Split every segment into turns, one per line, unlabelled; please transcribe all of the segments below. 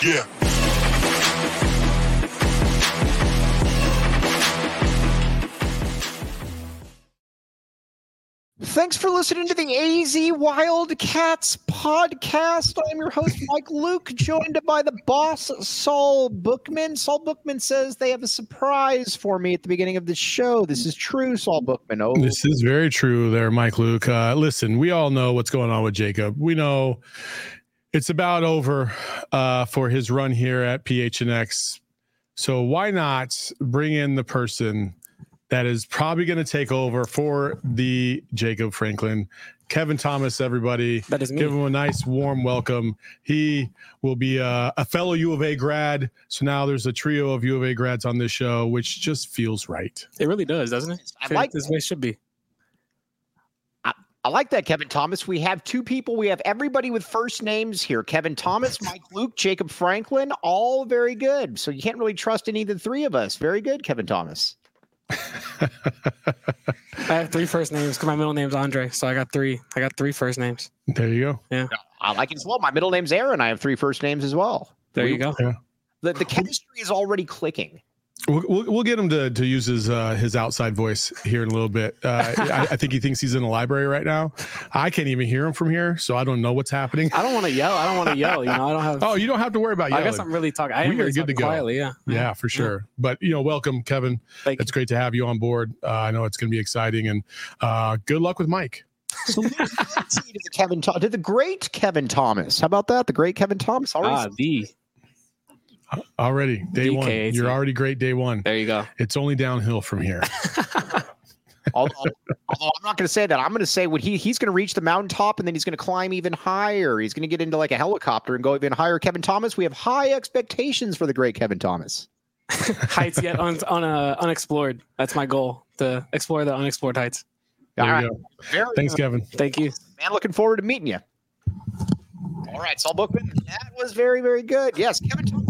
Yeah.
Thanks for listening to the AZ Wildcats podcast. I'm your host, Mike Luke, joined by the boss, Saul Bookman. Saul Bookman says they have a surprise for me at the beginning of the show. This is true, Saul Bookman. Oh,
this is very true there, Mike Luke. Listen, we all know what's going on with Jacob. We know it's about over for his run here at PHNX. So why not bring in the person that is probably going to take over for the Jacob Franklin, Kevin Thomas, everybody.
That is me.
Give him a nice, warm welcome. He will be a fellow U of A grad. So now there's a trio of U of A grads on this show, which just feels right.
It really does, doesn't it?
I like
this way it should be.
I like that, Kevin Thomas. We have two people. We have everybody with first names here. Kevin Thomas, Mike Luke, Jacob Franklin, all very good. So you can't really trust any of the three of us. Very good, Kevin Thomas.
I have three first names because my middle name's Andre, so I got three first names.
There you go.
Yeah,
I like it as well. My middle name's Aaron. I have three first names as well.
There you go.
Yeah.
The chemistry is already clicking.
We'll get him to use his outside voice here in a little bit. I think he thinks he's in the library right now. I can't even hear him from here, so I don't know what's happening.
I don't want to yell. You know, I don't have.
Oh, you don't have to worry about yelling.
I guess I'm really talking. I am
We are
really
good to
talking
go.
quietly. Yeah.
Yeah, for sure. Yeah. But, welcome, Kevin.
Thank
It's
you.
great to have you on board. I know it's going to be exciting, and good luck with Mike.
So let's see to the great Kevin Thomas. How about that? The great Kevin Thomas.
Already, day one.
DKAT.
You're already great day one.
There you go.
It's only downhill from here.
Although I'm not going to say that. I'm going to say what he's going to reach the mountaintop and then he's going to climb even higher. He's going to get into like a helicopter and go even higher. Kevin Thomas, we have high expectations for the great Kevin Thomas.
Heights yet unexplored. That's my goal, to explore the unexplored heights.
There you go. Thanks, Kevin.
Thank you.
Man, looking forward to meeting you. All right, Saul Bookman, that was very, very good. Yes, Kevin Thomas.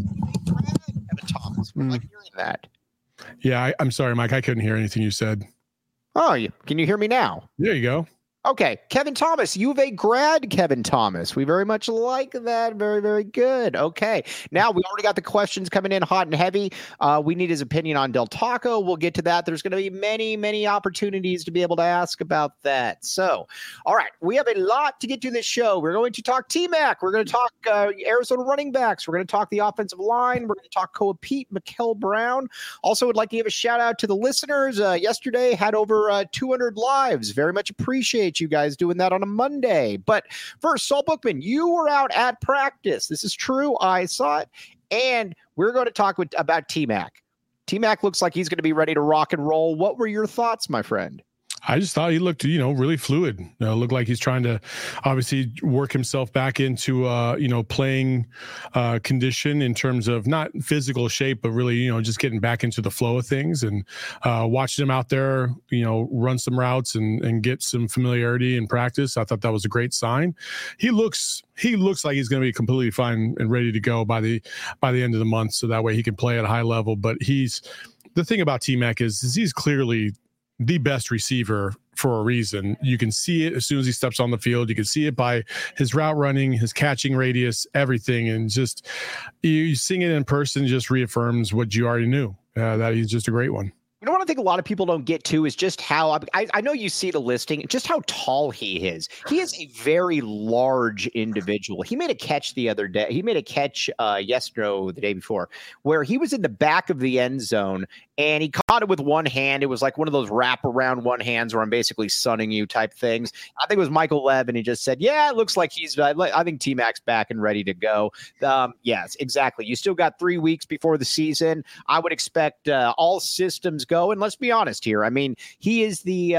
Kevin Thomas. I'm not hearing that.
Yeah, I'm sorry, Mike. I couldn't hear anything you said.
Oh, can you hear me now?
There you go.
Okay, Kevin Thomas, U of A grad Kevin Thomas. We very much like that. Very, very good. Okay, now we already got the questions coming in hot and heavy. We need his opinion on Del Taco. We'll get to that. There's going to be many, many opportunities to be able to ask about that. So, all right, we have a lot to get to this show. We're going to talk T-Mac. We're going to talk Arizona running backs. We're going to talk the offensive line. We're going to talk Koa Pete, Mikel Brown. Also, would like to give a shout out to the listeners. Yesterday had over 200 lives. Very much appreciate you guys doing that on a Monday. But first, Saul Bookman, you were out at practice. This is true. I saw it. And we're going to talk about T-Mac. T-Mac looks like he's going to be ready to rock and roll. What were your thoughts, my friend?
I just thought he looked, really fluid. Looked like he's trying to obviously work himself back into, playing condition in terms of not physical shape, but really, just getting back into the flow of things, and watching him out there, run some routes and get some familiarity in practice. I thought that was a great sign. He looks like he's going to be completely fine and ready to go by the end of the month. So that way he can play at a high level. But the thing about T-Mac is he's clearly the best receiver for a reason. You can see it as soon as he steps on the field. You can see it by his route running, his catching radius, everything. And just you seeing it in person just reaffirms what you already knew, that he's just a great one.
You know what I think a lot of people don't get to is just how I know you see the listing, just how tall he is. He is a very large individual. He made a catch the other day. He made a catch the day before, where he was in the back of the end zone and he caught it with one hand. It was like one of those wrap around one hands where I'm basically sunning you type things. I think it was Michael Lev, and he just said, yeah, it looks like I think T-Mac's back and ready to go. Yes, exactly. You still got 3 weeks before the season. I would expect all systems go. And let's be honest here. I mean, he is the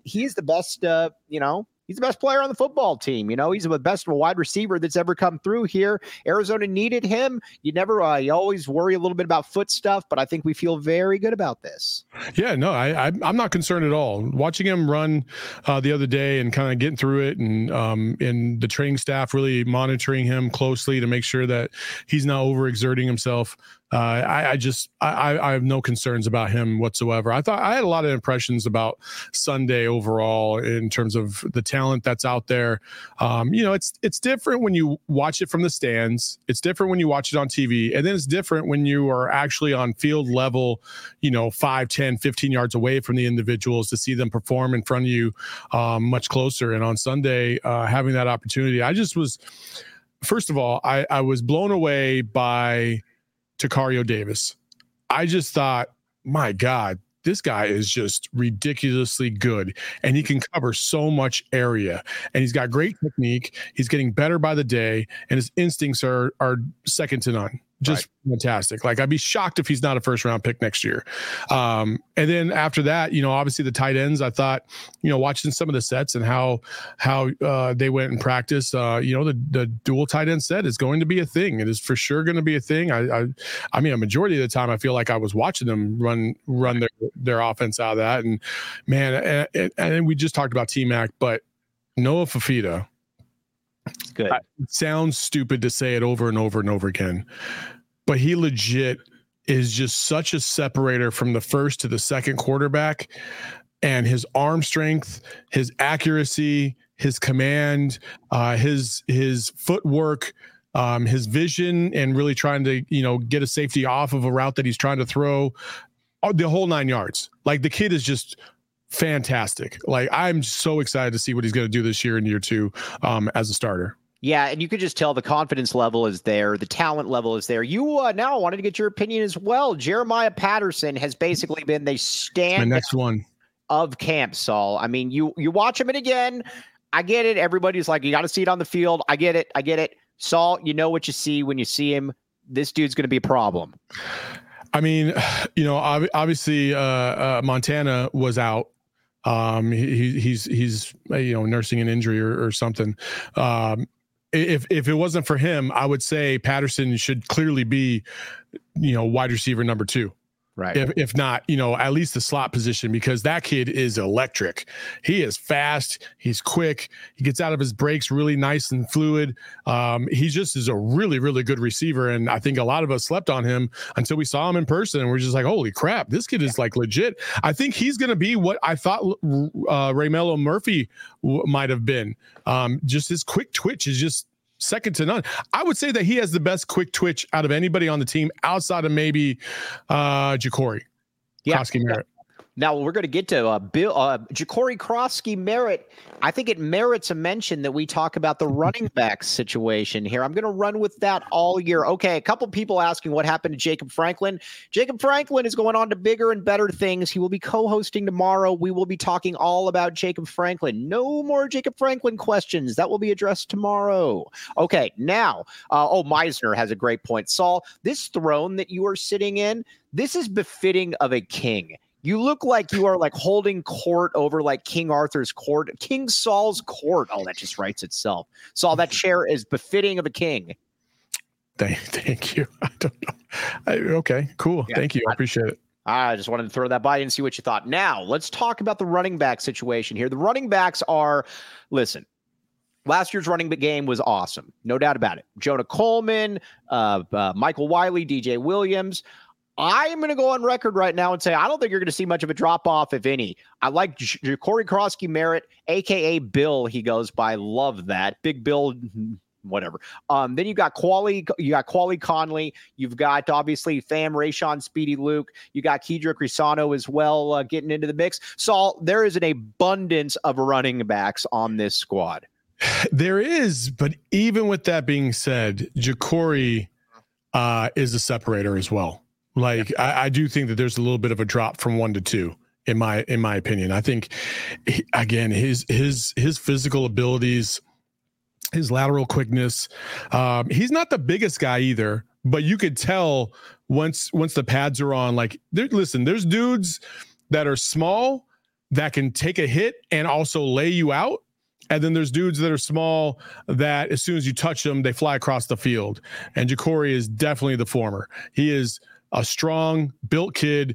best, he's the best player on the football team. He's the best wide receiver that's ever come through here. Arizona needed him. You always worry a little bit about foot stuff, but I think we feel very good about this.
Yeah, no, I'm not concerned at all. Watching him run the other day and kind of getting through it, and the training staff really monitoring him closely to make sure that he's not overexerting himself. I have no concerns about him whatsoever. I thought I had a lot of impressions about Sunday overall in terms of the talent that's out there. It's different when you watch it from the stands. It's different when you watch it on TV. And then it's different when you are actually on field level, 5, 10, 15 yards away from the individuals to see them perform in front of you much closer. And on Sunday, having that opportunity, first of all, I was blown away by Tacario Davis. I just thought, my God, this guy is just ridiculously good, and he can cover so much area, and he's got great technique. He's getting better by the day, and his instincts are second to none. Just fantastic. Like, I'd be shocked if he's not a first round pick next year. And then after that, obviously the tight ends, I thought, watching some of the sets and how they went in practice, the dual tight end set is going to be a thing. It is for sure going to be a thing. I mean, a majority of the time I feel like I was watching them run their offense out of that. And man, and we just talked about T-Mac, but Noah Fifita.
Good.
It sounds stupid to say it over and over and over again, but he legit is just such a separator from the first to the second quarterback, and his arm strength, his accuracy, his command, his footwork, his vision, and really trying to, get a safety off of a route that he's trying to throw, the whole 9 yards. Like, the kid is just fantastic. Like, I'm so excited to see what he's going to do this year in year 2 as a starter.
Yeah, and you could just tell the confidence level is there. The talent level is there. You now wanted to get your opinion as well. Jeremiah Patterson has basically been the stand
next one
of camp, Saul. I mean, you watch him, and again, I get it. Everybody's like, you got to see it on the field. I get it. Saul, you know what you see when you see him. This dude's going to be a problem.
I mean, obviously Montana was out. He's nursing an injury or something. If it wasn't for him, I would say Patterson should clearly be, wide receiver number 2.
Right.
If not, at least the slot position, because that kid is electric. He is fast. He's quick. He gets out of his breaks really nice and fluid. He just is a really, really good receiver. And I think a lot of us slept on him until we saw him in person. And we're just like, holy crap, this kid is like legit. I think he's going to be what I thought Raymelo Murphy might have been. Just his quick twitch is just second to none. I would say that he has the best quick twitch out of anybody on the team outside of maybe Ja'Cory Krosky-Merritt.
Now we're going to get to Ja'Cory Krosky-Merritt. I think it merits a mention that we talk about the running back situation here. I'm going to run with that all year. Okay, a couple people asking what happened to Jacob Franklin. Jacob Franklin is going on to bigger and better things. He will be co-hosting tomorrow. We will be talking all about Jacob Franklin. No more Jacob Franklin questions. That will be addressed tomorrow. Okay, now, Meisner has a great point. Saul, this throne that you are sitting in, this is befitting of a king. You look like you are like holding court over like King Arthur's court, King Saul's court. Oh, that just writes itself. Saul, that chair is befitting of a king.
Thank you. I don't know. Okay, cool. Yeah, thank you. I appreciate it.
I just wanted to throw that by you and see what you thought. Now, let's talk about the running back situation here. The running backs are, listen, last year's running back game was awesome. No doubt about it. Jonah Coleman, Michael Wiley, DJ Williams. I'm going to go on record right now and say I don't think you're going to see much of a drop-off, if any. I like Ja'Cory Krosky-Merritt, a.k.a. Bill, he goes by. Love that. Big Bill, whatever. Then you got Quali Conley. You've got, obviously, Fam, Rayshon, Speedy Luke. You got Kedrick Risano as well getting into the mix. Saul, there is an abundance of running backs on this squad.
There is, but even with that being said, Ja'Cory is a separator as well. Like, I do think that there's a little bit of a drop from 1 to 2 in my opinion. I think, again, his physical abilities, his lateral quickness. He's not the biggest guy either, but you could tell once the pads are on. Like, there's dudes that are small that can take a hit and also lay you out. And then there's dudes that are small that as soon as you touch them, they fly across the field. And Ja'Cory is definitely the former. He is a strong built kid,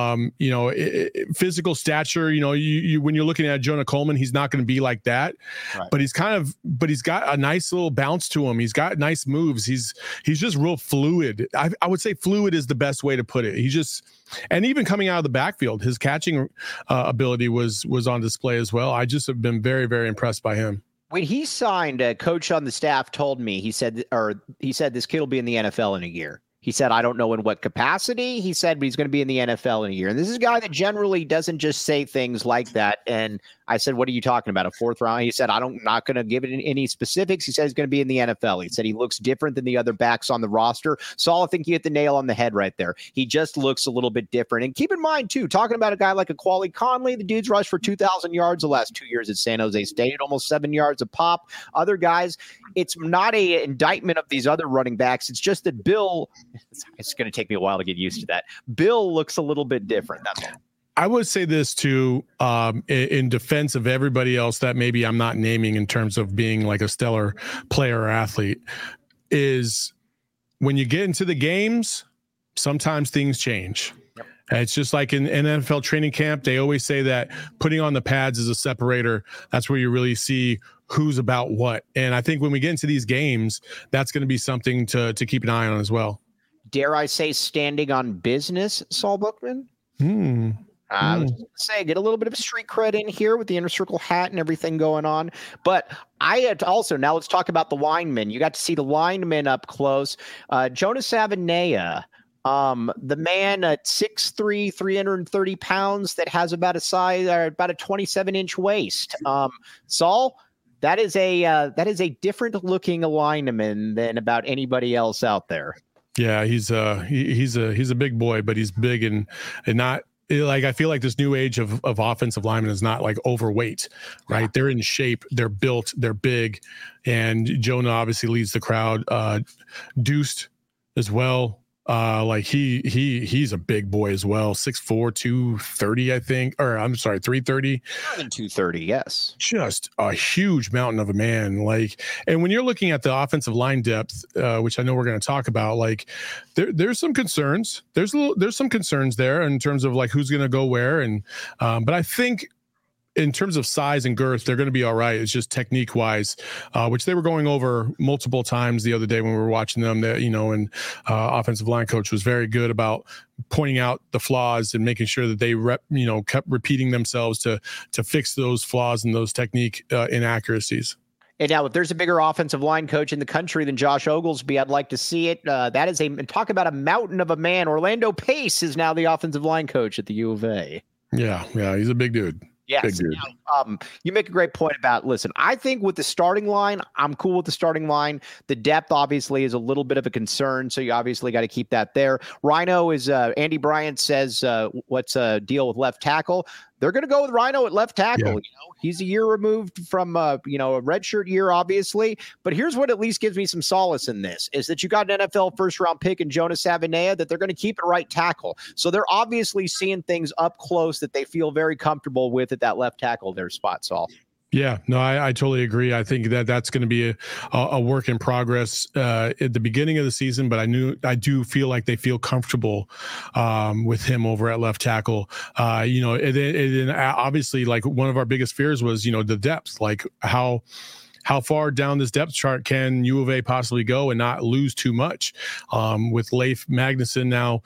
physical stature. You when you're looking at Jonah Coleman, he's not going to be like that, right. But he's got a nice little bounce to him. He's got nice moves. He's just real fluid. I would say fluid is the best way to put it. And even coming out of the backfield, his catching ability was on display as well. I just have been very, very impressed by him.
When he signed, a coach on the staff told me, he said this kid will be in the NFL in a year. He said, I don't know in what capacity. He said, but he's going to be in the NFL in a year. And this is a guy that generally doesn't just say things like that. And I said, what are you talking about? A fourth round? He said, I'm not going to give it any specifics. He said he's going to be in the NFL. He said he looks different than the other backs on the roster. Saul, I think you hit the nail on the head right there. He just looks a little bit different. And keep in mind, too, talking about a guy like a Quali Conley, the dude's rushed for 2,000 yards the last 2 years at San Jose State, almost 7 yards a pop. Other guys, it's not an indictment of these other running backs. It's just that Bill, it's going to take me a while to get used to that. Bill looks a little bit different. That's all.
I would say this too, in defense of everybody else that maybe I'm not naming in terms of being like a stellar player or athlete, is when you get into the games, sometimes things change. Yep. It's just like in NFL training camp, they always say that putting on the pads is a separator. That's where you really see who's about what. And I think when we get into these games, that's going to be something to keep an eye on as well.
Dare I say standing on business, Saul Bookman? I was going to say, get a little bit of street cred in here with the Inner Circle hat and everything going on. But I had also, now let's talk about the linemen. You got to see the linemen up close. Jonas Avenea, the man at 6'3", 330 pounds that has about a 27-inch waist. Saul, that is a different looking lineman than about anybody else out there.
Yeah, he's a big boy, but he's big and not. Like, I feel like this new age of offensive linemen is not like overweight, right? Yeah. They're in shape, they're built, they're big. And Jonah obviously leads the crowd. Deuced as well. Like he's a big boy as well. 6'4", 230, I think. Or I'm sorry, 330.
More than 230, yes.
Just a huge mountain of a man. Like, and when you're looking at the offensive line depth, which I know we're going to talk about, like there's some concerns. There's some concerns there in terms of like who's going to go where. And but I think in terms of size and girth, they're going to be all right. It's just technique wise, which they were going over multiple times the other day when we were watching them, that, and offensive line coach was very good about pointing out the flaws and making sure that they kept repeating themselves to fix those flaws and those technique inaccuracies.
And now, if there's a bigger offensive line coach in the country than Josh Oglesby, I'd like to see it. That is talk about a mountain of a man. Orlando Pace is now the offensive line coach at the U of A.
Yeah, he's a big dude.
Yes. You make a great point about, listen, I think with the starting line, I'm cool with the starting line. The depth obviously is a little bit of a concern, so you obviously got to keep that there. Rhino is, Andy Bryant says, what's a deal with left tackle? They're going to go with Rhino at left tackle. Yeah. He's a year removed from, a redshirt year, obviously. But here's what at least gives me some solace in this, is that you got an NFL first-round pick in Jonas Avenea, that they're going to keep at right tackle. So they're obviously seeing things up close that they feel very comfortable with at that left tackle, their spot, Saul.
Yeah, no, I totally agree. I think that's going to be a work in progress at the beginning of the season, but I do feel like they feel comfortable with him over at left tackle. And obviously, like, one of our biggest fears was, the depth, like how far down this depth chart can U of A possibly go and not lose too much? With Leif Magnuson now,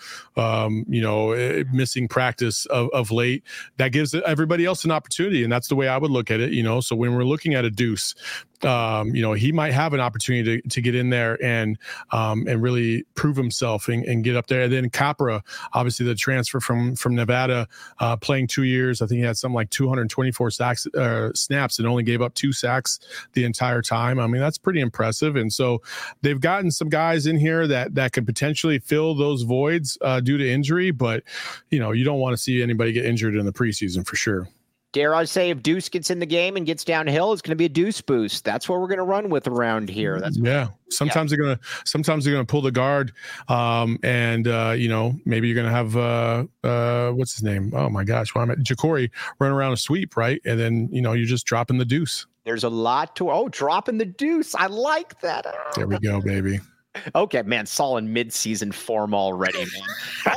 missing practice of late, that gives everybody else an opportunity. And that's the way I would look at it, So when we're looking at a Deuce, he might have an opportunity to get in there and really prove himself and get up there. And then Capra, obviously the transfer from Nevada, playing 2 years. I think he had something like 224 snaps and only gave up 2 sacks the entire time. I mean, that's pretty impressive. And so they've gotten some guys in here that could potentially fill those voids due to injury. But, you don't want to see anybody get injured in the preseason for sure.
Dare I say, if Deuce gets in the game and gets downhill, it's going to be a Deuce boost. That's what we're going to run with around here.
Sometimes they're going to pull the guard, and maybe you're going to have what's his name? Oh my gosh, Jacory run around a sweep, right? And then you're just dropping the Deuce.
There's a lot to dropping the Deuce. I like that.
There we go, baby.
Okay, man, Saul in mid-season form already, man.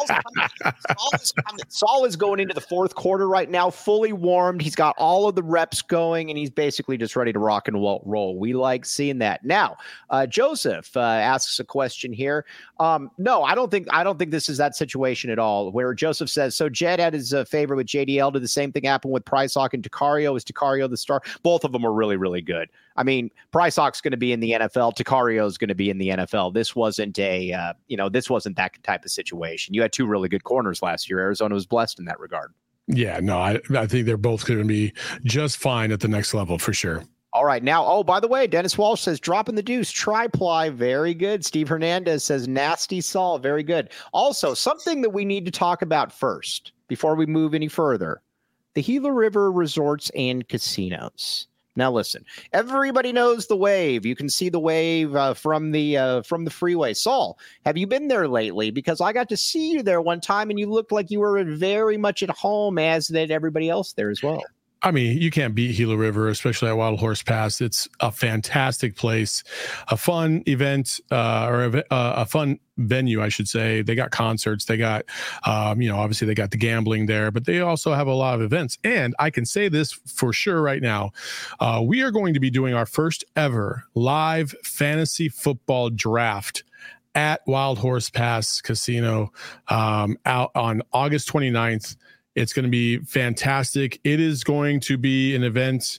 Saul is going into the fourth quarter right now, fully warmed. He's got all of the reps going, and he's basically just ready to rock and roll. We like seeing that. Now, Joseph asks a question here. No, I don't think this is that situation at all. Where Joseph says, so Jed had his favorite with JDL. Did the same thing happen with Price Hawk and Takario? Is Takario the star? Both of them are really, really good. I mean, Price Hawk's going to be in the NFL. Takario is going to be in the NFL. This wasn't this wasn't that type of situation. You had two really good corners last year. Arizona was blessed in that regard.
Yeah, no, I think they're both going to be just fine at the next level for sure.
All right. Now, by the way, Dennis Walsh says, dropping the deuce, tri-ply. Very good. Steve Hernandez says, nasty Saul. Very good. Also, something that we need to talk about first before we move any further, the Gila River Resorts and Casinos. Now, listen, everybody knows the Wave. You can see the Wave from the freeway. Saul, have you been there lately? Because I got to see you there one time, and you looked like you were very much at home, as did everybody else there as well.
I mean, you can't beat Gila River, especially at Wild Horse Pass. It's a fantastic place, a fun event, or a fun venue, I should say. They got concerts. They got, obviously they got the gambling there, but they also have a lot of events. And I can say this for sure right now. We are going to be doing our first ever live fantasy football draft at Wild Horse Pass Casino out on August 29th. It's going to be fantastic. It is going to be an event,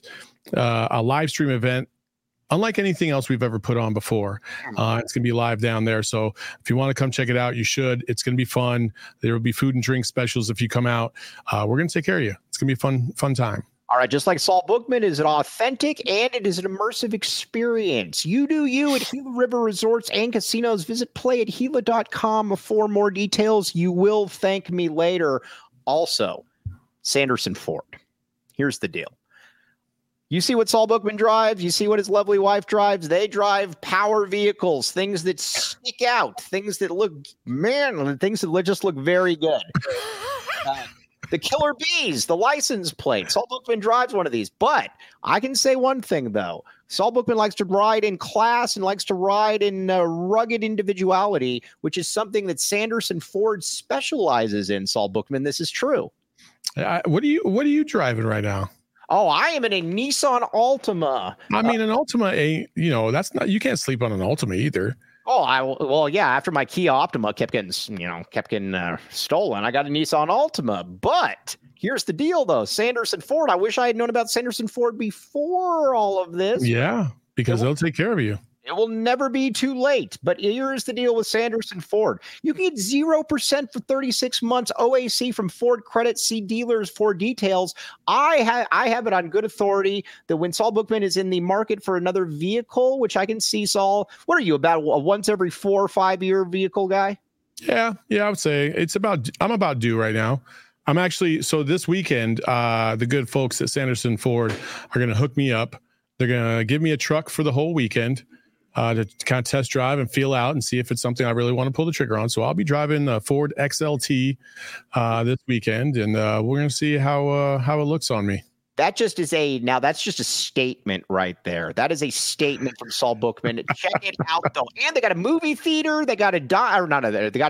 a live stream event, unlike anything else we've ever put on before. It's going to be live down there. So if you want to come check it out, you should. It's going to be fun. There will be food and drink specials if you come out. We're going to take care of you. It's going to be a fun time.
All right, just like Saul Bookman is an authentic and it is an immersive experience. You do you at Gila River Resorts and Casinos. Visit playatgila.com for more details. You will thank me later. Also, Sanderson Ford. Here's the deal. You see what Saul Bookman drives. You see what his lovely wife drives. They drive power vehicles, things that stick out, things that look manly, things that just look very good. The Killer Bees, the license plate. Saul Bookman drives one of these. But I can say one thing, though. Saul Bookman likes to ride in class and likes to ride in rugged individuality, which is something that Sanderson Ford specializes in, Saul Bookman. This is true.
What are you driving right now?
Oh, I am in a Nissan Altima.
I mean, an Altima ain't, that's not, you can't sleep on an Altima either.
Oh, yeah. After my Kia Optima kept getting stolen, I got a Nissan Altima. But here's the deal, though. Sanderson Ford. I wish I had known about Sanderson Ford before all of this.
Yeah, because they'll take care of you.
It will never be too late. But here's the deal with Sanderson Ford. You can get 0% for 36 months OAC from Ford Credit. See dealers for details. I have it on good authority that when Saul Bookman is in the market for another vehicle, which I can see, Saul, what are you, about a once every 4 or 5 year vehicle guy?
Yeah, I would say I'm about due right now. I'm actually, so this weekend, the good folks at Sanderson Ford are going to hook me up. They're going to give me a truck for the whole weekend. To kind of test drive and feel out and see if it's something I really want to pull the trigger on. So I'll be driving a Ford XLT this weekend, and we're going to see how it looks on me.
That's just a statement right there. That is a statement from Saul Bookman. Check it out, though. And they got a movie theater. They got a diner, not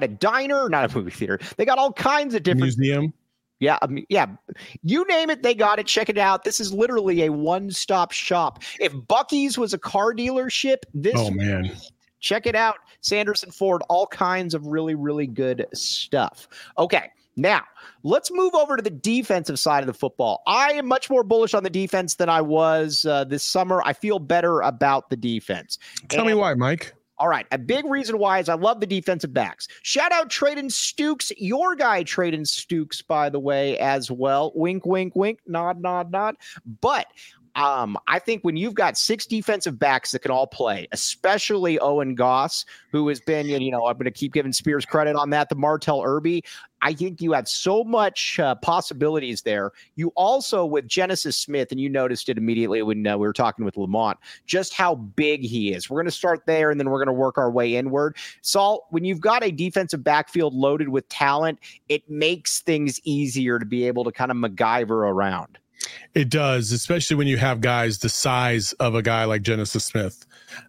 a movie theater. They got all kinds of different
museum.
Yeah. You name it, they got it. Check it out. This is literally a one-stop shop. If Buc-ee's was a car dealership, check it out. Sanderson Ford, all kinds of really, really good stuff. Okay. Now, let's move over to the defensive side of the football. I am much more bullish on the defense than I was this summer. I feel better about the defense.
Tell me why, Mike.
All right. A big reason why is I love the defensive backs. Shout out Traden Stukes, your guy Traden Stukes, by the way, as well. Wink, wink, wink, nod, nod, nod. But I think when you've got 6 defensive backs that can all play, especially Owen Goss, who has been, I'm going to keep giving Spears credit on that, the Martell Irby, I think you have so much possibilities there. You also, with Genesis Smith, and you noticed it immediately when we were talking with Lamont, just how big he is. We're going to start there, and then we're going to work our way inward. Saul, when you've got a defensive backfield loaded with talent, it makes things easier to be able to kind of MacGyver around.
It does, especially when you have guys the size of a guy like Genesis Smith.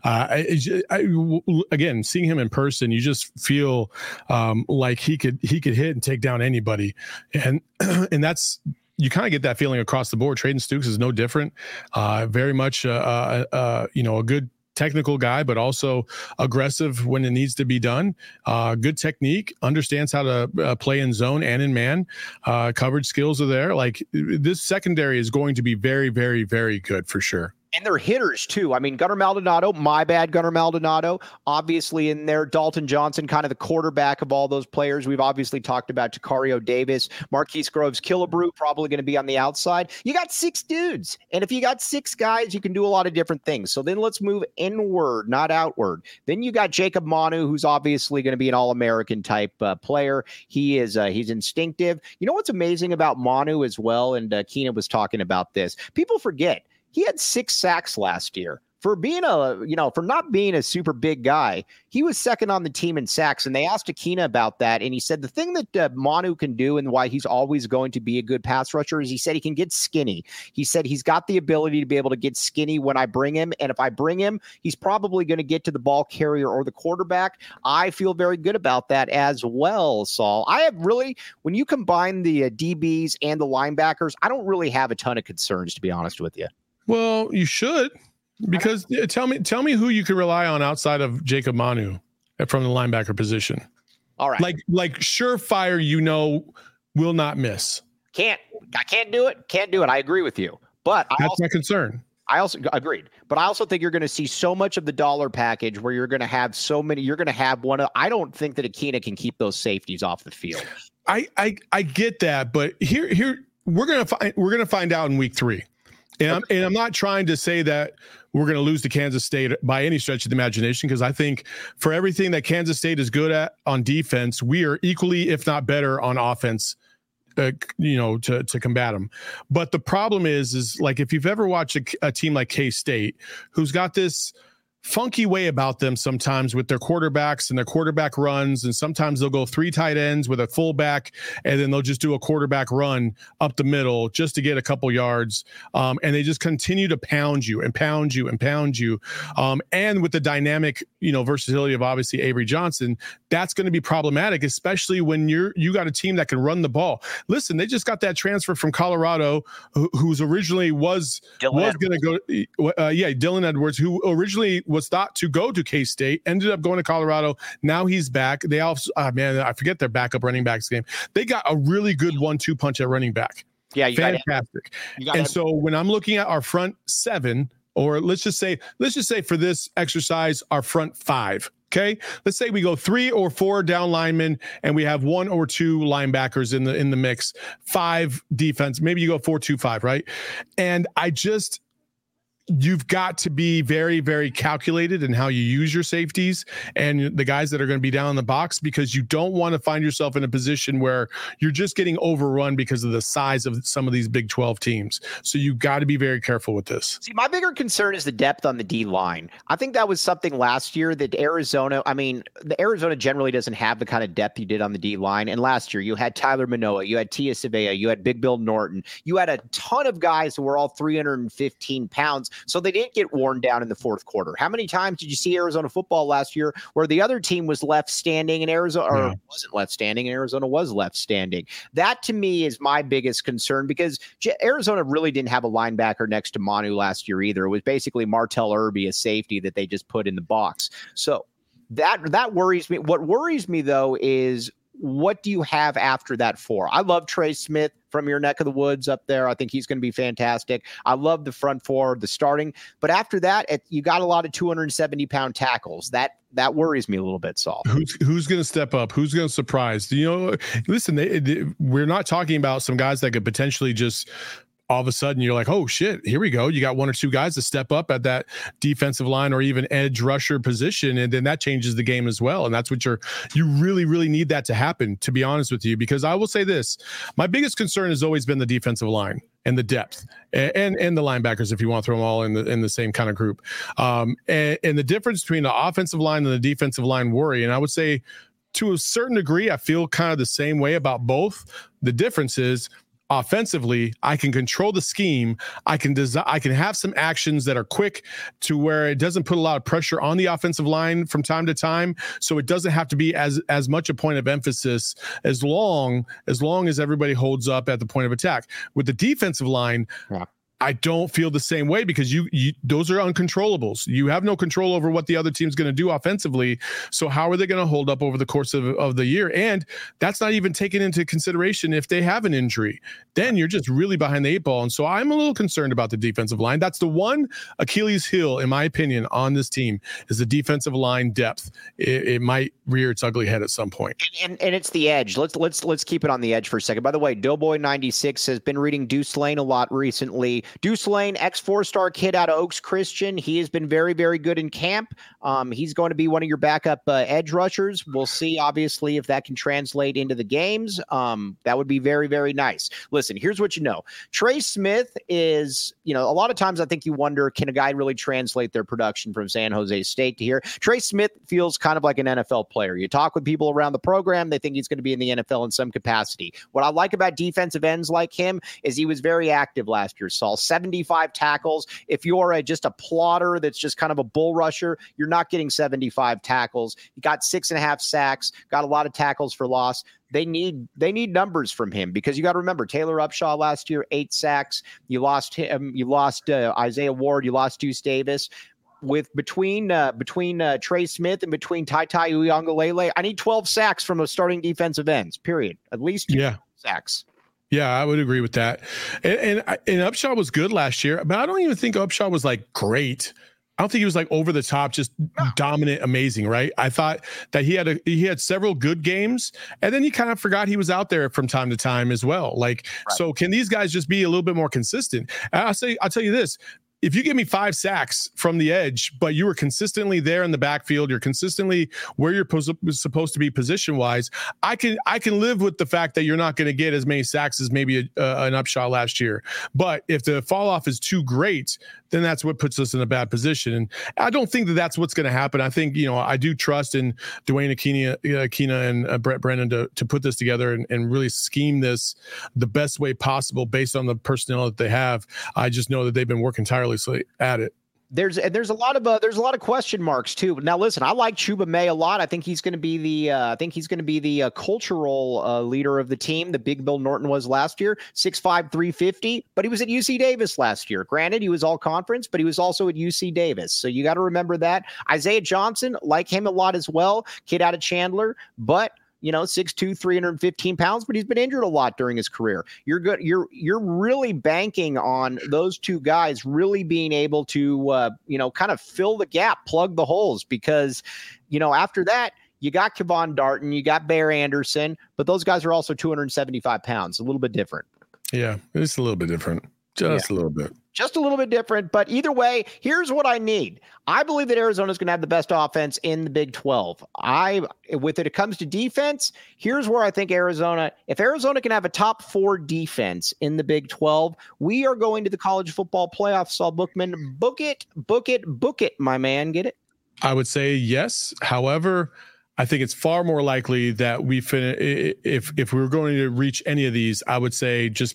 Again, seeing him in person, you just feel like he could hit and take down anybody, and that's, you kind of get that feeling across the board. Trayden Stukes is no different. Very much, a good technical guy, but also aggressive when it needs to be done. Good technique, understands how to play in zone and in man. Coverage skills are there. Like, this secondary is going to be very, very, very good for sure.
And they're hitters, too. I mean, Gunnar Maldonado, Gunnar Maldonado, obviously in there. Dalton Johnson, kind of the quarterback of all those players. We've obviously talked about Tacario Davis, Marquise Groves, Killebrew, probably going to be on the outside. You got 6 dudes. And if you got 6 guys, you can do a lot of different things. So then let's move inward, not outward. Then you got Jacob Manu, who's obviously going to be an All-American type player. He's instinctive. You know what's amazing about Manu as well? And Keenan was talking about this. People forget. He had 6 sacks last year. For being for not being a super big guy, he was second on the team in sacks. And they asked Akina about that. And he said the thing that Manu can do and why he's always going to be a good pass rusher is he said he can get skinny. He said he's got the ability to be able to get skinny when I bring him. And if I bring him, he's probably going to get to the ball carrier or the quarterback. I feel very good about that as well, Saul. I have really, when you combine the DBs and the linebackers, I don't really have a ton of concerns, to be honest with you.
Well, you should, because tell me who you can rely on outside of Jacob Manu from the linebacker position.
All right.
Like surefire, will not miss.
I can't do it. Can't do it. I agree with you. But
that's my concern.
I also agreed. But I also think you're going to see so much of the dollar package where you're going to have so many. You're going to have I don't think that Akina can keep those safeties off the field.
I get that, but here we're gonna find out in week 3. And I'm not trying to say that we're going to lose to Kansas State by any stretch of the imagination, because I think for everything that Kansas State is good at on defense, we are equally, if not better, on offense, to combat them. But the problem is like, if you've ever watched a team like K-State, who's got this funky way about them sometimes with their quarterbacks and their quarterback runs, and sometimes they'll go 3 tight ends with a fullback, and then they'll just do a quarterback run up the middle just to get a couple yards, and they just continue to pound you and pound you and pound you, and with the dynamic versatility of obviously Avery Johnson, that's going to be problematic, especially when you got a team that can run the ball. Listen, they just got that transfer from Colorado, who's originally was going to go Dylan Edwards, who originally was thought to go to K-State, ended up going to Colorado. Now he's back. They also, I forget their backup running backs game. They got a really good 1-2 punch at running back.
Yeah,
fantastic. So when I'm looking at our front 7, or let's just say for this exercise, our front 5. Okay, let's say we go 3 or 4 down linemen, and we have 1 or 2 linebackers in the mix. 5 defense. Maybe you go 4-2-5, right? And you've got to be very, very calculated in how you use your safeties and the guys that are going to be down in the box, because you don't want to find yourself in a position where you're just getting overrun because of the size of some of these Big 12 teams. So you got to be very careful with this.
See, my bigger concern is the depth on the D line. I think that was something last year that the Arizona generally doesn't have the kind of depth you did on the D line. And last year you had Tyler Manoa, you had Tia Savea, you had Big Bill Norton, you had a ton of guys who were all 315 pounds. So they didn't get worn down in the fourth quarter. How many times did you see Arizona football last year where the other team was left standing and Arizona wasn't left standing and Arizona was left standing? That to me is my biggest concern, because Arizona really didn't have a linebacker next to Manu last year either. It was basically Martell Irby, a safety that they just put in the box. So that worries me. What worries me though is, what do you have after that 4? I love Trey Smith from your neck of the woods up there. I think he's going to be fantastic. I love the front 4, the starting. But after that, you got a lot of 270-pound tackles. That worries me a little bit, Saul.
Who's going to step up? Who's going to surprise? Listen, we're not talking about some guys that could potentially just all of a sudden you're like, oh shit, here we go. You got 1 or 2 guys to step up at that defensive line or even edge rusher position. And then that changes the game as well. And that's what you really, really need that to happen, to be honest with you, because I will say this, my biggest concern has always been the defensive line and the depth and the linebackers, if you want to throw them all in the same kind of group. And the difference between the offensive line and the defensive line worry. And I would say to a certain degree, I feel kind of the same way about both. The difference is, offensively, I can control the scheme. I can have some actions that are quick to where it doesn't put a lot of pressure on the offensive line from time to time. So it doesn't have to be as much a point of emphasis as long as everybody holds up at the point of attack. With the defensive line, I don't feel the same way because you those are uncontrollables. You have no control over what the other team's going to do offensively. So how are they going to hold up over the course of the year? And that's not even taken into consideration if they have an injury. Then you're just really behind the 8 ball. And so I'm a little concerned about the defensive line. That's the one Achilles heel, in my opinion, on this team is the defensive line depth. It might rear its ugly head at some point.
And it's the edge. Let's keep it on the edge for a second. By the way, Doughboy96 has been reading Deuce Lane a lot recently. Deuce Lane, ex-4-star kid out of Oaks Christian. He has been very, very good in camp. He's going to be one of your backup edge rushers. We'll see, obviously, if that can translate into the games. That would be very, very nice. Listen, here's what you know. Trey Smith is, a lot of times I think you wonder, can a guy really translate their production from San Jose State to here? Trey Smith feels kind of like an NFL player. You talk with people around the program, they think he's going to be in the NFL in some capacity. What I like about defensive ends like him is he was very active last year, Saul. 75 tackles. If you're just a plotter that's just kind of a bull rusher, you're not getting 75 tackles. He got 6.5 sacks, got a lot of tackles for loss. They need numbers from him because you got to remember Taylor Upshaw last year, 8 sacks. You lost him. You lost Isaiah Ward. You lost Deuce Davis. Between Trey Smith and between Tai Uiagalelei, I need 12 sacks from those starting defensive ends. Period. At least 2 sacks.
Yeah, I would agree with that. And Upshaw was good last year, but I don't even think Upshaw was like great. I don't think he was like over the top, just dominant, amazing, right? I thought that he had several good games, and then he kind of forgot he was out there from time to time as well. So can these guys just be a little bit more consistent? I'll tell you this. If you give me 5 sacks from the edge, but you were consistently there in the backfield, you're consistently where you're supposed to be position-wise, I can live with the fact that you're not going to get as many sacks as maybe an Upshaw last year. But if the fall-off is too great, then that's what puts us in a bad position. And I don't think that that's what's going to happen. I think, I do trust in Dwayne Aquina and Brett Brennan to put this together and really scheme this the best way possible based on the personnel that they have. I just know that they've been working tirelessly at it.
There's a lot of question marks too. Now listen, I like Chuba May a lot. I think he's going to be the cultural leader of the team. The big Bill Norton was last year, 6'5", 350, but he was at UC Davis last year. Granted, he was all conference, but he was also at UC Davis. So you got to remember that. Isaiah Johnson, like him a lot as well, kid out of Chandler, but 6'2", 315 pounds, but he's been injured a lot during his career. You're good. You're really banking on those two guys really being able to, kind of fill the gap, plug the holes, because, after that, you got Kevon Darton, you got Bear Anderson, but those guys are also 275 pounds, a little bit different.
Yeah, it's a little bit different. Just a little bit.
Just a little bit different, but either way, here's what I need. I believe that Arizona's going to have the best offense in the Big 12. It comes to defense, here's where I think if Arizona can have a top 4 defense in the Big 12, we are going to the college football playoffs. Saul Bookman, book it, my man. Get it?
I would say yes. However, I think it's far more likely that we finish if we were going to reach any of these. I would say just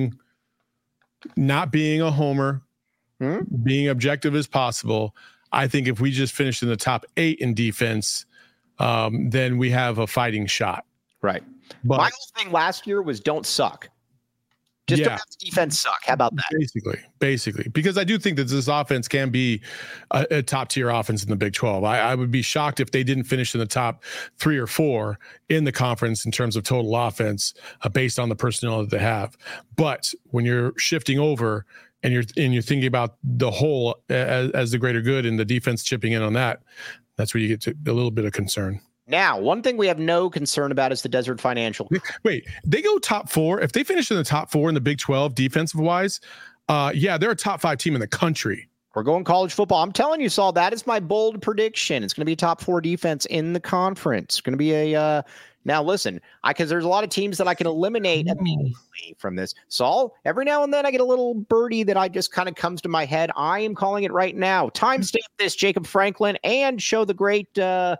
not being a homer, being objective as possible. I think if we just finish in the top 8 in defense, then we have a fighting shot.
Right.
But
my whole thing last year was don't suck. Just don't have the defense suck. How about that? Basically, because I do think that this offense can be a top tier offense in the Big 12. I would be shocked if they didn't finish in the top 3 or 4 in the conference in terms of total offense based on the personnel that they have. But when you're shifting over and you're thinking about the whole as the greater good and the defense chipping in on that, that's where you get to a little bit of concern. Now, one thing we have no concern about is the Desert Financial.
Wait, they go top 4. If they finish in the top 4 in the Big 12 defensive wise, they're a top 5 team in the country.
We're going college football. I'm telling you, Saul, that is my bold prediction. It's going to be a top 4 defense in the conference. It's going to be now listen, because there's a lot of teams that I can eliminate immediately from this. Saul, every now and then I get a little birdie that I just kind of comes to my head. I am calling it right now. Timestamp this, Jacob Franklin, and show the great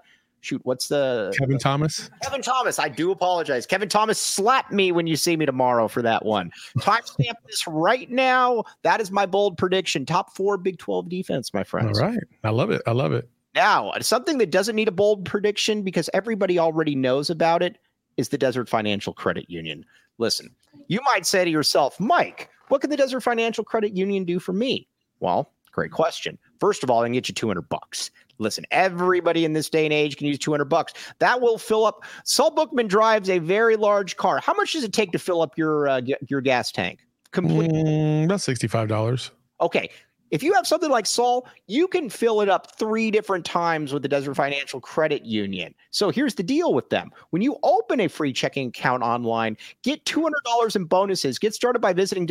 shoot, what's the
Kevin Thomas?
Kevin Thomas. I do apologize. Kevin Thomas, slap me when you see me tomorrow for that one. Timestamp this right now. That is my bold prediction. Top 4 Big 12 defense, my friends.
All right. I love it. I love it.
Now, something that doesn't need a bold prediction because everybody already knows about it is the Desert Financial Credit Union. Listen, you might say to yourself, Mike, what can the Desert Financial Credit Union do for me? Well, great question. First of all, I can get you $200. Listen, everybody in this day and age can use $200. That will fill up. Saul Bookman drives a very large car. How much does it take to fill up your gas tank? Completely.
About $65.
Okay. If you have something like Saul, you can fill it up 3 different times with the Desert Financial Credit Union. So here's the deal with them. When you open a free checking account online, get $200 in bonuses. Get started by visiting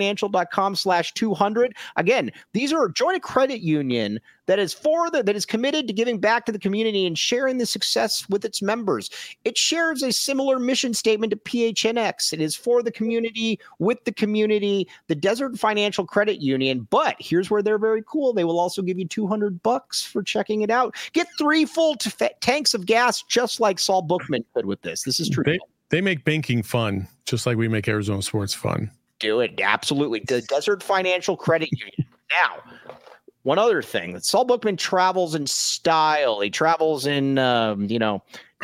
desertfinancial.com/200. Again, these are join a credit union that is committed to giving back to the community and sharing the success with its members. It shares a similar mission statement to PHNX. It is for the community, with the community, the Desert Financial Credit Union. But here's where they're very cool. They will also give you $200 for checking it out. Get 3 full tanks of gas, just like Saul Bookman could with this. This is true.
They make banking fun, just like we make Arizona sports fun.
Do it. Absolutely. The Desert Financial Credit Union. Now, one other thing, that Saul Bookman travels in style. He travels in, now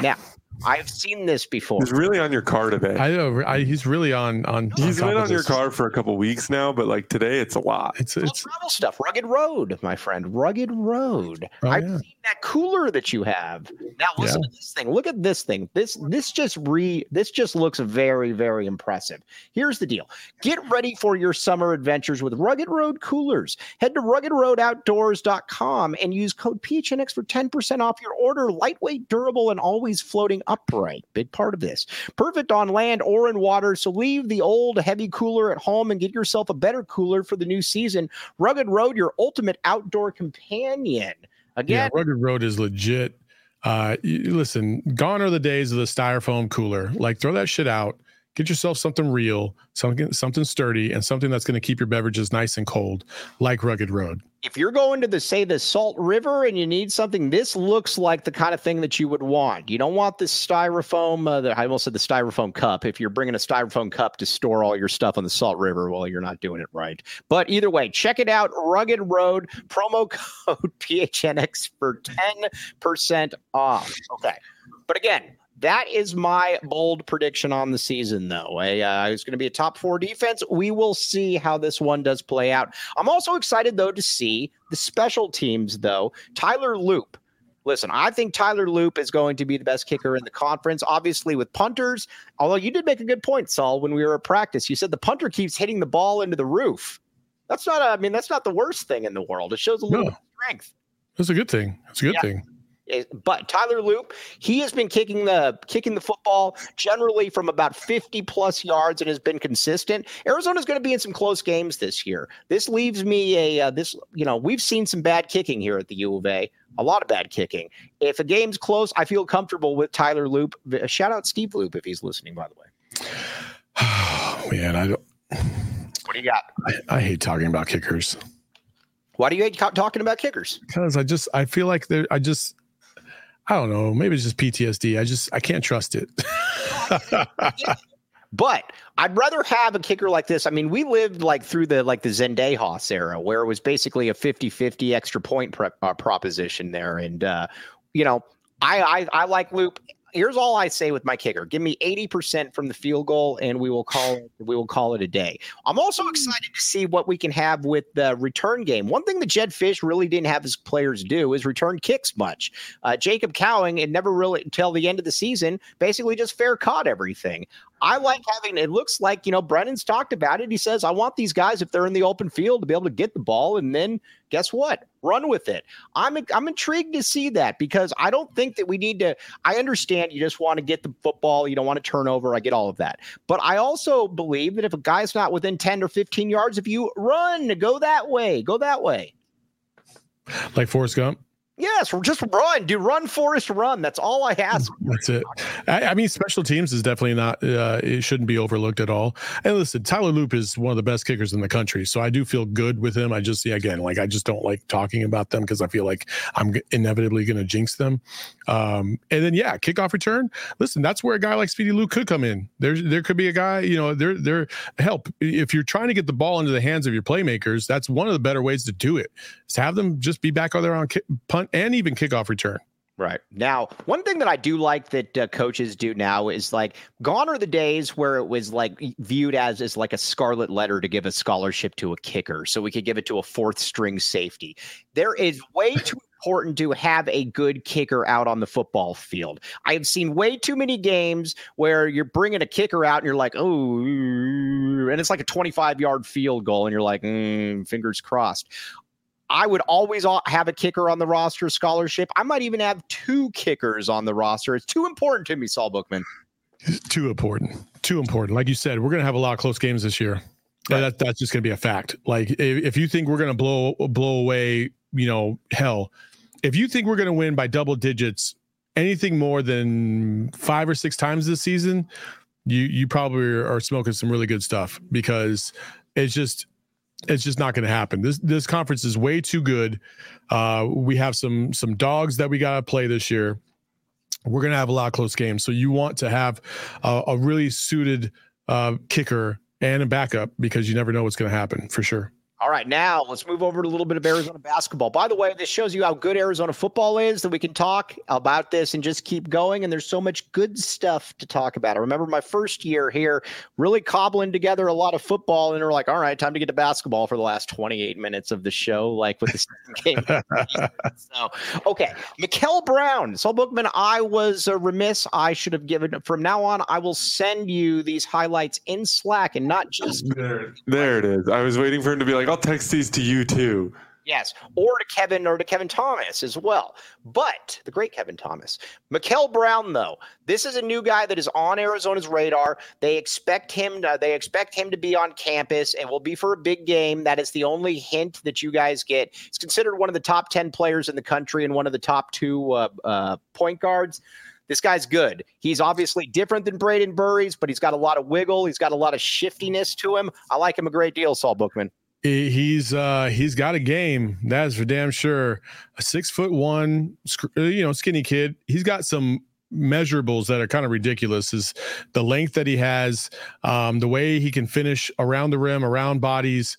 I've seen this before.
He's really on your car today.
I know. He's really on.
He's been on your car for a couple weeks now, but like today, it's a lot.
It's
travel stuff. Rugged Road, my friend. Rugged Road. I've seen that cooler that you have. Now listen to this thing. Look at this thing. This just looks very, very impressive. Here's the deal. Get ready for your summer adventures with Rugged Road coolers. Head to ruggedroadoutdoors.com and use code PHNX for 10% off your order. Lightweight, durable, and always floating upright. Big part of this. Perfect on land or in water. So leave the old heavy cooler at home and get yourself a better cooler for the new season. Rugged Road, your ultimate outdoor companion. Again,
Rugged Road is legit. Listen, gone are the days of the styrofoam cooler. Like, throw that shit out. Get yourself something real, something sturdy, and something that's going to keep your beverages nice and cold, like Rugged Road.
If you're going to the Salt River and you need something, this looks like the kind of thing that you would want. You don't want this styrofoam, I almost said the styrofoam cup. If you're bringing a styrofoam cup to store all your stuff on the Salt River, well, you're not doing it right. But either way, check it out. Rugged Road, promo code PHNX for 10% off. Okay. But again, that is my bold prediction on the season, though. It's going to be a top 4 defense. We will see how this one does play out. I'm also excited, though, to see the special teams, though. Tyler Loop. Listen, I think Tyler Loop is going to be the best kicker in the conference, obviously with punters. Although you did make a good point, Saul, when we were at practice. You said the punter keeps hitting the ball into the roof. That's not the worst thing in the world. It shows a little bit of strength.
That's a good thing. That's a good thing.
But Tyler Loop, he has been kicking the football generally from about 50 plus yards and has been consistent. Arizona's going to be in some close games this year. This leaves me we've seen some bad kicking here at the U of A, a lot of bad kicking. If a game's close, I feel comfortable with Tyler Loop. Shout out Steve Loop if he's listening, by the way.
Oh, man, I don't.
What do you got?
I hate talking about kickers.
Why do you hate talking about kickers?
Because I feel like I don't know. Maybe it's just PTSD. I can't trust it.
But I'd rather have a kicker like this. I mean, we lived through the Zendejas era where it was basically a 50-50 extra point proposition there. And, I like Loop. Here's all I say with my kicker. Give me 80% from the field goal and we will call it a day. I'm also excited to see what we can have with the return game. One thing that Jedd Fisch really didn't have his players do is return kicks much. Jacob Cowing, it never really until the end of the season, basically just fair caught everything. I like having, it looks like, Brennan's talked about it. He says, I want these guys, if they're in the open field, to be able to get the ball and then guess what? Run with it. I'm intrigued to see that because I don't think that we need to, I understand you just want to get the football. You don't want to turn over. I get all of that. But I also believe that if a guy's not within 10 or 15 yards, if you run, go that way.
Like Forrest Gump?
Yes, just run, dude. Run, Forrest, run. That's all I ask.
That's it. I mean, special teams is definitely not. It shouldn't be overlooked at all. And listen, Tyler Loop is one of the best kickers in the country, so I do feel good with him. I just, again, like I just don't like talking about them because I feel like I'm inevitably going to jinx them. And then kickoff return. Listen, that's where a guy like Speedy Luke could come in. There could be a guy. There help if you're trying to get the ball into the hands of your playmakers. That's one of the better ways to do it. Is have them just be back on their own punt and even kickoff return.
Right. Now, one thing that I do like that coaches do now is like gone are the days where it was like viewed as like a scarlet letter to give a scholarship to a kicker. So we could give it to a fourth string safety. There is way too important to have a good kicker out on the football field. I have seen way too many games where you're bringing a kicker out and you're like, oh, and it's like a 25-yard field goal. And you're like, fingers crossed. I would always have a kicker on the roster scholarship. I might even have 2 kickers on the roster. It's too important to me, Saul Bookman.
Too important. Like you said, we're going to have a lot of close games this year. Right. That's just going to be a fact. Like if you think we're going to blow away, hell, if you think we're going to win by double digits, anything more than 5 or 6 times this season, you probably are smoking some really good stuff because it's just not going to happen. This conference is way too good. We have some dogs that we got to play this year. We're going to have a lot of close games. So you want to have a really suited kicker and a backup because you never know what's going to happen for sure.
All right, now let's move over to a little bit of Arizona basketball. By the way, this shows you how good Arizona football is, that we can talk about this and just keep going. And there's so much good stuff to talk about. I remember my first year here really cobbling together a lot of football. And we're like, all right, time to get to basketball for the last 28 minutes of the show, like with the second game. So, okay, Mikel Brown. Saul Bookman, I was remiss. I should have given, from now on, I will send you these highlights in Slack and not just.
There it is. I was waiting for him to be like, I'll text these to you too.
Yes, or to Kevin Thomas as well. But the great Kevin Thomas. Mikel Brown, though, this is a new guy that is on Arizona's radar. They expect him to be on campus and will be for a big game. That is the only hint that you guys get. He's considered one of the top 10 players in the country and one of the top 2 point guards. This guy's good. He's obviously different than Braden Burries, but he's got a lot of wiggle. He's got a lot of shiftiness to him. I like him a great deal, Saul Bookman.
He's got a game, that is for damn sure. A 6'1", skinny kid. He's got some measurables that are kind of ridiculous. Is the length that he has, the way he can finish around the rim, around bodies.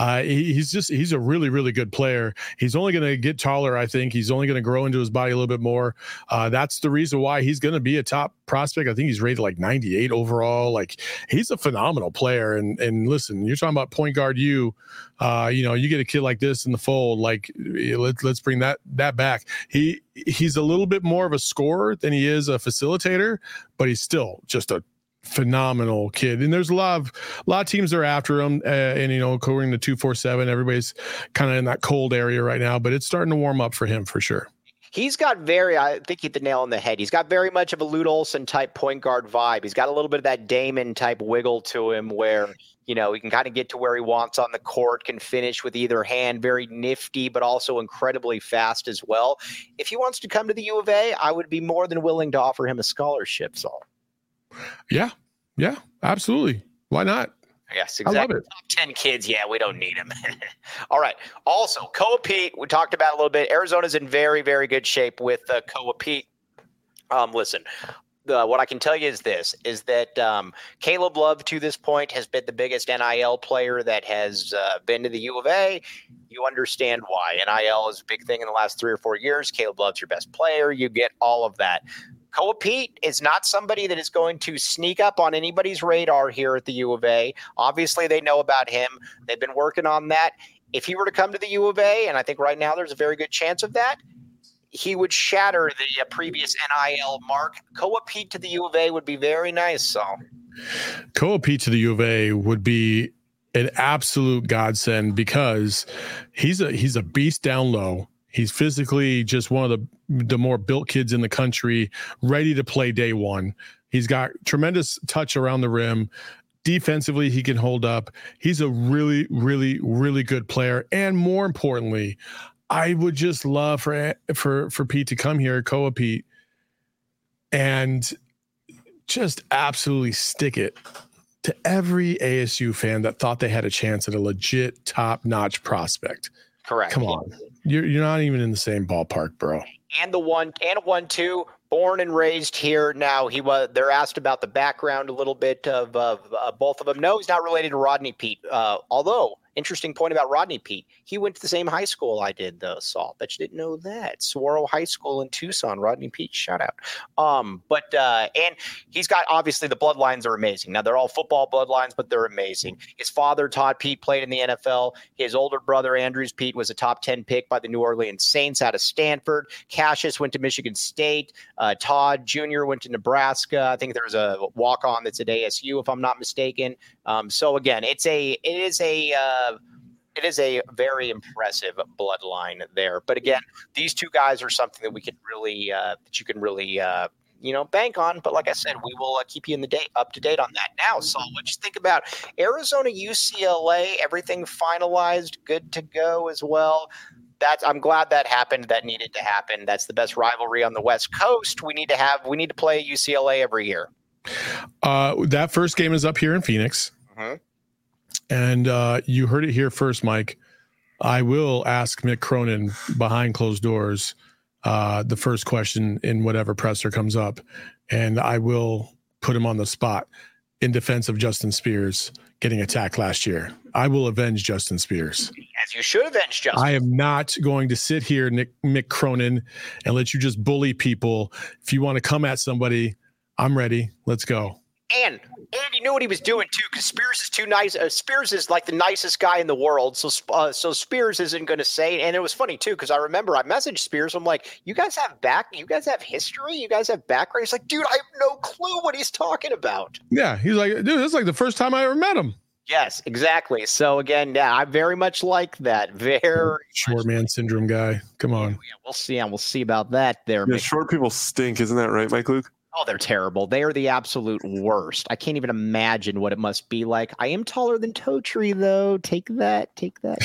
He's a really, really good player. He's only going to get taller. I think he's only going to grow into his body a little bit more. That's the reason why he's going to be a top prospect. I think he's rated like 98 overall. Like he's a phenomenal player. And listen, you're talking about point guard. You get a kid like this in the fold. Like let's bring that back. He's a little bit more of a scorer than he is a facilitator, but he's still just a phenomenal kid. And there's a lot of teams that are after him. According to 247, everybody's kind of in that cold area right now, but it's starting to warm up for him for sure.
He's got I think he hit the nail on the head. He's got very much of a Lute Olson type point guard vibe. He's got a little bit of that Damon type wiggle to him where, he can kind of get to where he wants on the court, can finish with either hand, very nifty, but also incredibly fast as well. If he wants to come to the U of A, I would be more than willing to offer him a scholarship, Saul.
Yeah, absolutely. Why not?
Yes, exactly.
I love it.
Top 10 kids. Yeah, we don't need him. All right. Also, Koa Pete, we talked about a little bit. Arizona's in very, very good shape with Koa Pete. Listen, what I can tell you is that Caleb Love to this point has been the biggest NIL player that has been to the U of A. You understand why. NIL is a big thing in the last 3 or 4 years. Caleb Love's your best player. You get all of that. Koa Pete is not somebody that is going to sneak up on anybody's radar here at the U of A. Obviously, they know about him. They've been working on that. If he were to come to the U of A, and I think right now there's a very good chance of that, he would shatter the previous NIL mark. Koa Pete to the U of A would be very nice. So,
Koa Pete to the U of A would be an absolute godsend because he's a beast down low. He's physically just one of the more built kids in the country, ready to play day one. He's got tremendous touch around the rim. Defensively, he can hold up. He's a really, really, really good player. And more importantly, I would just love for Pete to come here, Koa Pete, and just absolutely stick it to every ASU fan that thought they had a chance at a legit top-notch prospect.
Correct.
Come on. You're not even in the same ballpark, bro.
And a 1-2, born and raised here. Now they're asked about the background a little bit of both of them. No, he's not related to Rodney Pete. Although, interesting point about Rodney Pete. He went to the same high school I did, though, Saul. Bet you didn't know that. Saguaro High School in Tucson. Rodney Pete, shout out. And he's got, obviously, the bloodlines are amazing. Now, they're all football bloodlines, but they're amazing. His father, Todd Pete, played in the NFL. His older brother, Andrews Pete, was a top 10 pick by the New Orleans Saints out of Stanford. Cassius went to Michigan State. Todd Jr. went to Nebraska. I think there's a walk-on that's at ASU, if I'm not mistaken. So again, it is a very impressive bloodline there. But again, these two guys are something that we could really that you can really bank on. But like I said, we will keep you up to date on that. Now, Saul, what you think about Arizona, UCLA? Everything finalized, good to go as well. I'm glad that happened. That needed to happen. That's the best rivalry on the West Coast. We need to play UCLA every year.
That first game is up here in Phoenix.
Mm-hmm.
And you heard it here first, Mike. I will ask Mick Cronin behind closed doors the first question in whatever presser comes up, and I will put him on the spot in defense of Justin Spears getting attacked last year. I will avenge Justin Spears.
As you should avenge Justin.
I am not going to sit here, Mick Cronin, and let you just bully people. If you want to come at somebody, I'm ready. Let's go.
And Andy knew what he was doing too, because Spears is too nice. Spears is like the nicest guy in the world, so Spears isn't going to say. And it was funny too, because I remember I messaged Spears. I'm like, "You guys have history. You guys have background." He's like, "Dude, I have no clue what he's talking about."
Yeah, he's like, "Dude, this is like the first time I ever met him."
Yes, exactly. So again, yeah, I very much like that. Very
short man syndrome guy. Come on.
Yeah, we'll see. We'll see about that. There,
yeah, short people stink, isn't that right, Mike Luke?
Oh, they're terrible. They are the absolute worst. I can't even imagine what it must be like. I am taller than Totri, though. Take that. While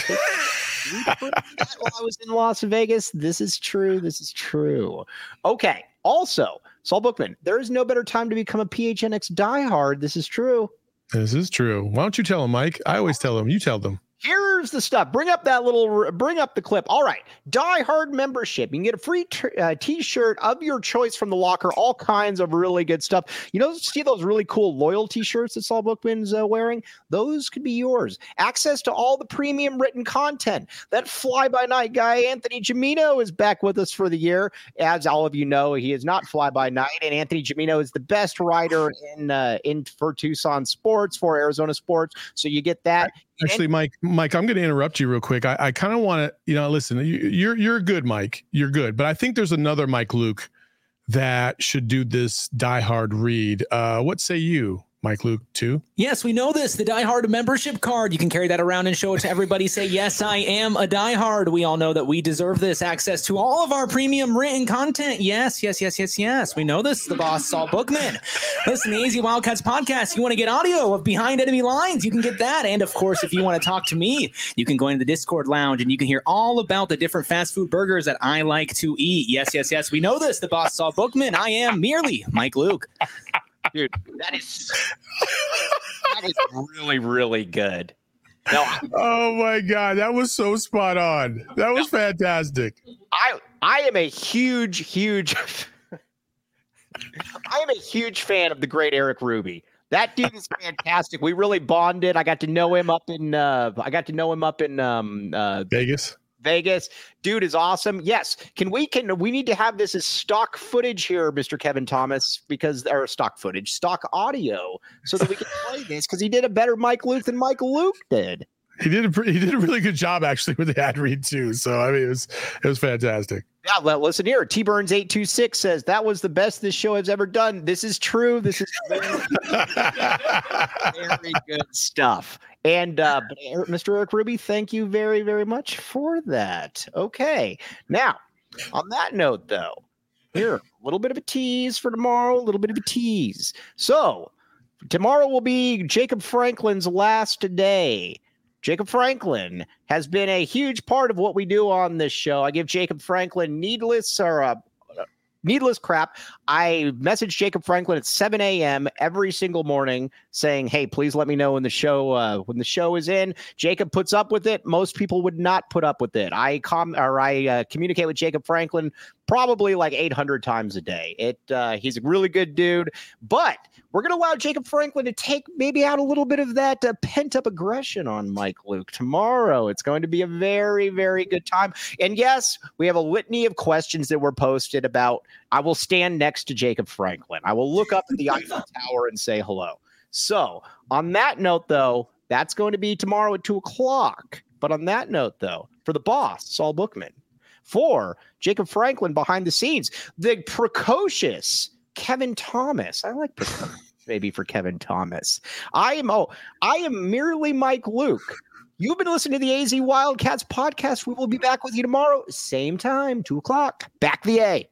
I was in Las Vegas. This is true. Okay. Also, Saul Bookman, there is no better time to become a PHNX diehard. This is true.
Why don't you tell him, Mike? I always tell him. You tell them.
Here's the stuff. Bring up the clip. All right. Die Hard membership. You can get a free t-shirt of your choice from the locker. All kinds of really good stuff. See those really cool loyalty shirts that Saul Bookman's wearing? Those could be yours. Access to all the premium written content. That fly-by-night guy, Anthony Gimino, is back with us for the year. As all of you know, he is not fly-by-night, and Anthony Gimino is the best writer for Tucson sports, for Arizona sports. So you get that.
Actually, Mike, I'm going to interrupt you real quick. I kind of want to, listen, you're good, Mike. You're good. But I think there's another Mike Luke that should do this Die Hard read. What say you, Mike Luke, too?
Yes, we know this. The Die Hard membership card. You can carry that around and show it to everybody. Say, yes, I am a Die Hard. We all know that we deserve this. Access to all of our premium written content. Yes. We know this. The boss, Saul Bookman. Listen, the AZ Wildcats podcast. You want to get audio of Behind Enemy Lines? You can get that. And, of course, if you want to talk to me, you can go into the Discord lounge and you can hear all about the different fast food burgers that I like to eat. Yes. We know this. The boss, Saul Bookman. I am merely Mike Luke.
Dude, that is really, really good. No,
oh my God, that was so spot on. That was fantastic.
I am a huge fan of the great Eric Ruby. That dude is fantastic. We really bonded. I got to know him up in Vegas. Dude is awesome. Yes. We need to have this as stock footage here, Mr. Kevin Thomas, stock audio, so that we can play this, because he did a better Mike Luke than Mike Luke did.
He did a really good job actually with the ad read too. So I mean, it was fantastic.
Yeah, well, listen here. T Burns 826 says that was the best this show has ever done. This is true. This is very, very good stuff. And Mr. Eric Ruby, thank you very, very much for that. Okay. Now, on that note, though, here, a little bit of a tease for tomorrow, So, tomorrow will be Jacob Franklin's last day Jacob Franklin has been a huge part of what we do on this show. I give Jacob Franklin needless crap. I message Jacob Franklin at 7 a.m. every single morning saying, hey, please let me know when the show is in. Jacob puts up with it. Most people would not put up with it. I communicate with Jacob Franklin probably like 800 times a day. He's a really good dude, but we're going to allow Jacob Franklin to take maybe out a little bit of that pent-up aggression on Mike Luke tomorrow. It's going to be a very, very good time. And yes, we have a litany of questions that were posted about, I will stand next to Jacob Franklin. I will look up at the Eiffel Tower and say hello. So on that note, though, that's going to be tomorrow at 2:00. But on that note, though, for the boss, Saul Bookman, for Jacob Franklin behind the scenes, the precocious Kevin Thomas. I like maybe for Kevin Thomas. I am merely Mike Luke. You've been listening to the AZ Wildcats podcast. We will be back with you tomorrow, same time, 2:00. Back the A.